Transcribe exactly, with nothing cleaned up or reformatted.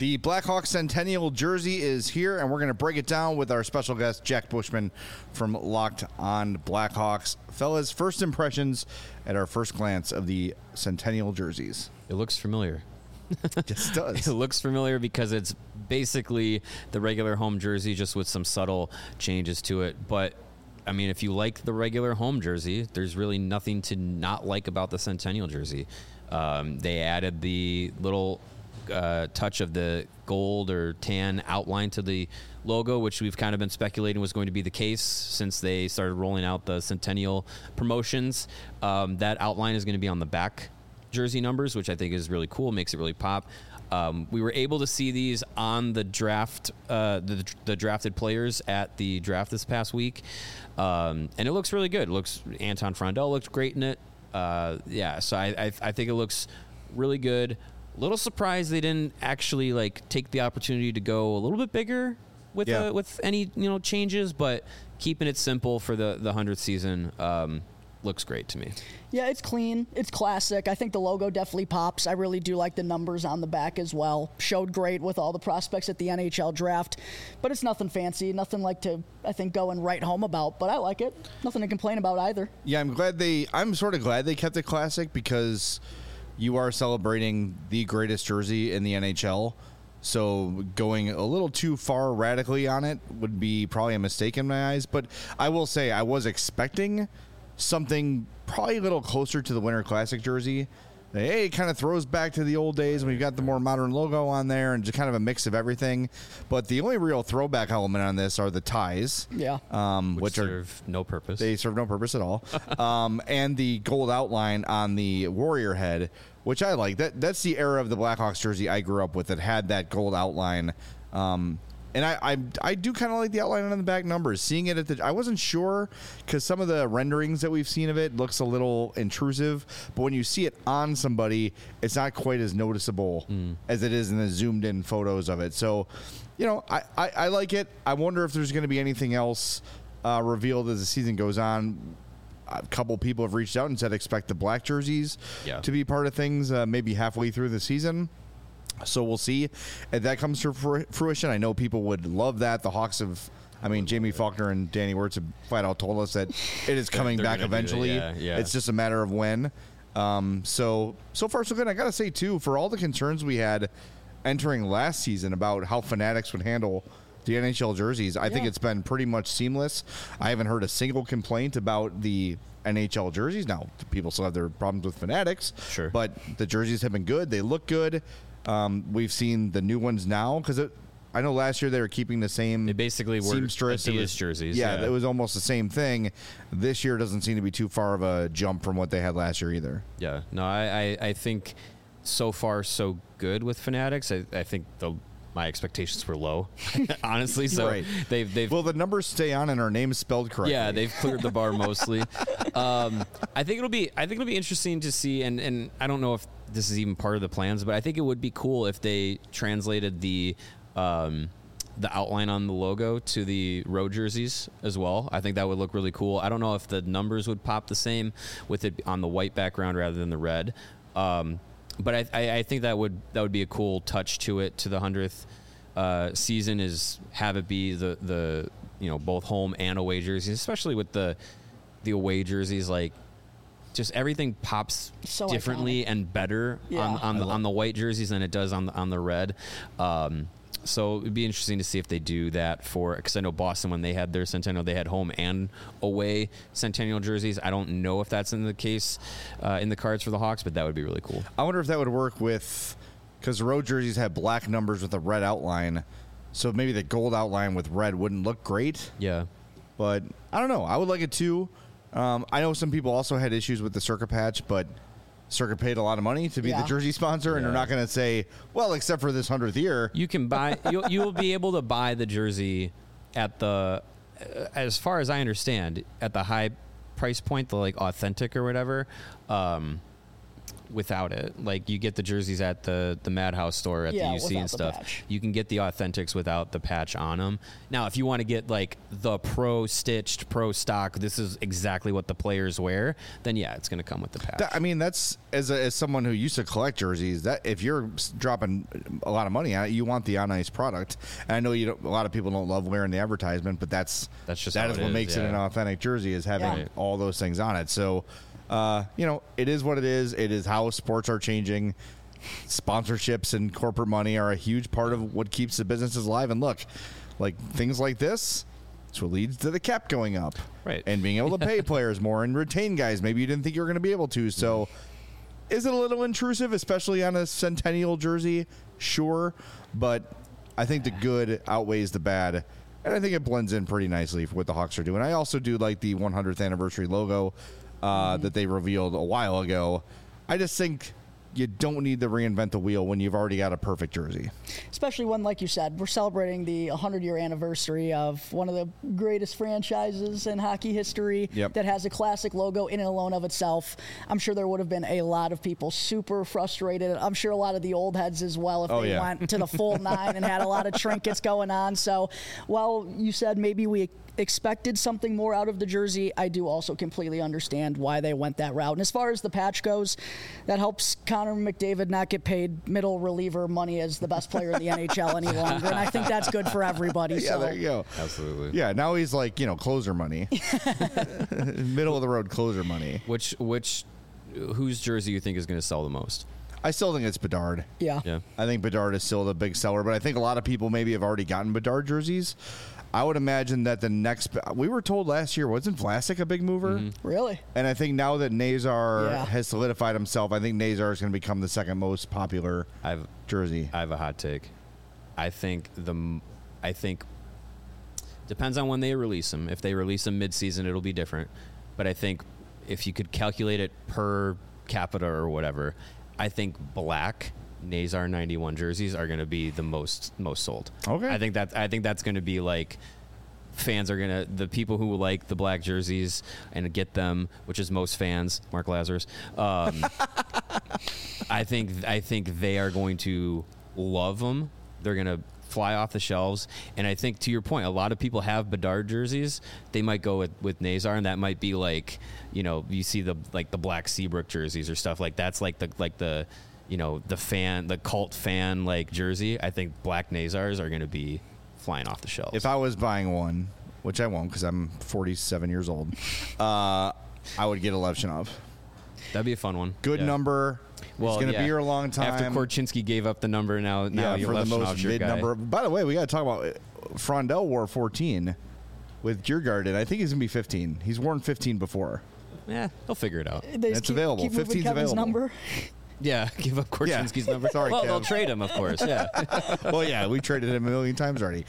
The Blackhawks Centennial jersey is here, and we're going to break it down with our special guest, Jack Bushman from Locked on Blackhawks. Fellas, first impressions at our first glance of the Centennial jerseys. It looks familiar. It just does. It looks familiar because it's basically the regular home jersey, just with some subtle changes to it. But, I mean, if you like the regular home jersey, there's really nothing to not like about the Centennial jersey. Um, they added the little... Uh, touch of the gold or tan outline to the logo, which we've kind of been speculating was going to be the case since they started rolling out the Centennial promotions. Um, that outline is going to be on the back jersey numbers, which I think is really cool, makes it really pop. Um, we were able to see these on the draft, uh, the, the drafted players at the draft this past week, um, and it looks really good. It looks Anton Frondell looked great in it. Uh, yeah, so I, I I think it looks really good. Little surprised they didn't actually like take the opportunity to go a little bit bigger with yeah. uh, with any you know changes, but keeping it simple for the the hundredth season um, looks great to me. Yeah, it's clean. It's classic. I think the logo definitely pops. I really do like the numbers on the back as well. Showed great with all the prospects at the N H L draft, but it's nothing fancy, nothing like to I think go and write home about. But I like it. Nothing to complain about either. Yeah, I'm glad they. I'm sort of glad they kept it classic because you are celebrating the greatest jersey in the N H L, so going a little too far radically on it would be probably a mistake in my eyes. But I will say I was expecting something probably a little closer to the Winter Classic jersey. Hey, it kind of throws back to the old days when we've got the more modern logo on there and just kind of a mix of everything. But the only real throwback element on this are the ties. Yeah. Um, which, which serve are, no purpose. They serve no purpose at all. um, and the gold outline on the Warrior head, which I like. That That's the era of the Blackhawks jersey I grew up with that had that gold outline. Um And I, I I do kind of like the outline on the back numbers. Seeing it at the, I wasn't sure because some of the renderings that we've seen of it looks a little intrusive. But when you see it on somebody, it's not quite as noticeable mm. as it is in the zoomed in photos of it. So, you know, I, I, I like it. I wonder if there's going to be anything else uh, revealed as the season goes on. A couple people have reached out and said expect the black jerseys yeah. to be part of things uh, maybe halfway through the season. So we'll see if that comes to fruition. I know people would love that. The Hawks have, I mean, Jamie Faulkner and Danny Wirtz have flat out told us that it is coming back eventually. Yeah, yeah. It's just a matter of when. Um, so, so far so good. I got to say, too, for all the concerns we had entering last season about how Fanatics would handle the N H L jerseys, I yeah. think it's been pretty much seamless. I haven't heard a single complaint about the N H L jerseys. Now, people still have their problems with Fanatics. Sure. But the jerseys have been good. They look good. Um, we've seen the new ones now because I know last year they were keeping the same. They basically were seamstress. Adidas was, jerseys. Yeah, yeah, it was almost the same thing. This year doesn't seem to be too far of a jump from what they had last year either. Yeah, no, I, I, I think so far so good with Fanatics. I, I think the my expectations were low, honestly. So right. they've they've well, the numbers stay on and our name's spelled correctly. Yeah, they've cleared the bar mostly. um, I think it'll be I think it'll be interesting to see, and and I don't know if this is even part of the plans, but I think it would be cool if they translated the um, the outline on the logo to the road jerseys as well. I think that would look really cool. I don't know if the numbers would pop the same with it on the white background rather than the red. Um, but I, I, I think that would that would be a cool touch to it to the hundredth uh, season is have it be the the you know both home and away jerseys, especially with the the away jerseys like. Just everything pops so differently iconic. And better yeah. on on the, on the white jerseys than it does on the on the red. Um, so it'd be interesting to see if they do that for because I know Boston when they had their Centennial they had home and away Centennial jerseys. I don't know if that's in the case uh, in the cards for the Hawks, but that would be really cool. I wonder if that would work with because the road jerseys have black numbers with a red outline, so maybe the gold outline with red wouldn't look great. Yeah, but I don't know. I would like it too. Um, I know some people also had issues with the Circa patch, but Circa paid a lot of money to be yeah. the jersey sponsor, and yeah. they're not going to say, well, except for this hundredth year. You can buy, you'll, you'll be able to buy the jersey at the, uh, as far as I understand, at the high price point, the like authentic or whatever. Um, without it. Like you get the jerseys at the the Madhouse store at Yeah, the U C and without the stuff. patch. You can get the authentics without the patch on them. Now, if you want to get like the pro stitched, pro stock, this is exactly what the players wear, then yeah, it's going to come with the patch. That- I mean, that's as a, as someone who used to collect jerseys. That if you're s- dropping a lot of money on it, you want the on ice product. And I know you don't, a lot of people don't love wearing the advertisement, but that's That's just that how is it what is, makes it yeah. an authentic jersey is having Yeah. all those things on it. So, uh, you know, it is what it is. It is how sports are changing. Sponsorships and corporate money are a huge part of what keeps the businesses alive. And look, like things like this. It's what leads to the cap going up, Right. And being able to pay players more and retain guys maybe you didn't think you were going to be able to. So, is it a little intrusive, especially on a Centennial jersey? Sure, but I think the good outweighs the bad, and I think it blends in pretty nicely for what the Hawks are doing. I also do like the one hundredth anniversary logo uh, Mm-hmm. that they revealed a while ago. I just think you don't need to reinvent the wheel when you've already got a perfect jersey. Especially when, like you said, we're celebrating the one hundred year anniversary of one of the greatest franchises in hockey history Yep. that has a classic logo in and alone of itself. I'm sure there would have been a lot of people super frustrated. I'm sure a lot of the old heads as well if Oh, they yeah. went to the full nine and had a lot of trinkets going on. So while you said maybe we expected something more out of the jersey, I do also completely understand why they went that route. And as far as the patch goes, that helps Connor McDavid not get paid middle reliever money as the best player in the N H L any longer. And I think that's good for everybody. Yeah, so. there you go. Absolutely. Yeah, now he's like, you know, closer money. Middle of the road closer money. Which which whose jersey you think is going to sell the most? I still think it's Bedard. Yeah. Yeah. I think Bedard is still the big seller, but I think a lot of people maybe have already gotten Bedard jerseys. I would imagine that the next we were told last year wasn't Vlasic a big mover, Mm-hmm. Really? and I think now that Nazar Yeah. has solidified himself, I think Nazar is going to become the second most popular I've jersey. I have a hot take. I think the m- I think depends on when they release them. If they release them mid-season, it'll be different. But I think if you could calculate it per capita or whatever, I think black Nazar ninety-one jerseys are going to be the most most sold. Okay. I think that I think that's going to be like fans are going to the people who like the black jerseys and get them, which is most fans, Mark Lazarus. Um, I think I think they are going to love them. They're going to fly off the shelves. And I think to your point, a lot of people have Bedard jerseys. They might go with, with Nazar, and that might be like, you know, you see the like the black Seabrook jerseys or stuff like that's like the like the you know the fan the cult fan like jersey. I think black Nazars are going to be flying off the shelves. If I was buying one, which I won't because I'm forty-seven years old, uh, I would get a Levchinov. That'd be a fun one. Good Yeah. number. Well, He's going to yeah. be here a long time. After Korchinski gave up the number, now now yeah, you're for the Levchinov's most your mid guy. number. By the way, we got to talk about it. Frondell wore fourteen with Djurgården. I think he's going to be fifteen. He's worn fifteen before. Yeah, they'll figure it out. They just It's available. Keep moving fifteen's Kevin's available. number. Yeah, give up Korchinski's number. Sorry, well, Kev. they'll trade him, of course. Yeah. Well, yeah, we traded him a million times already.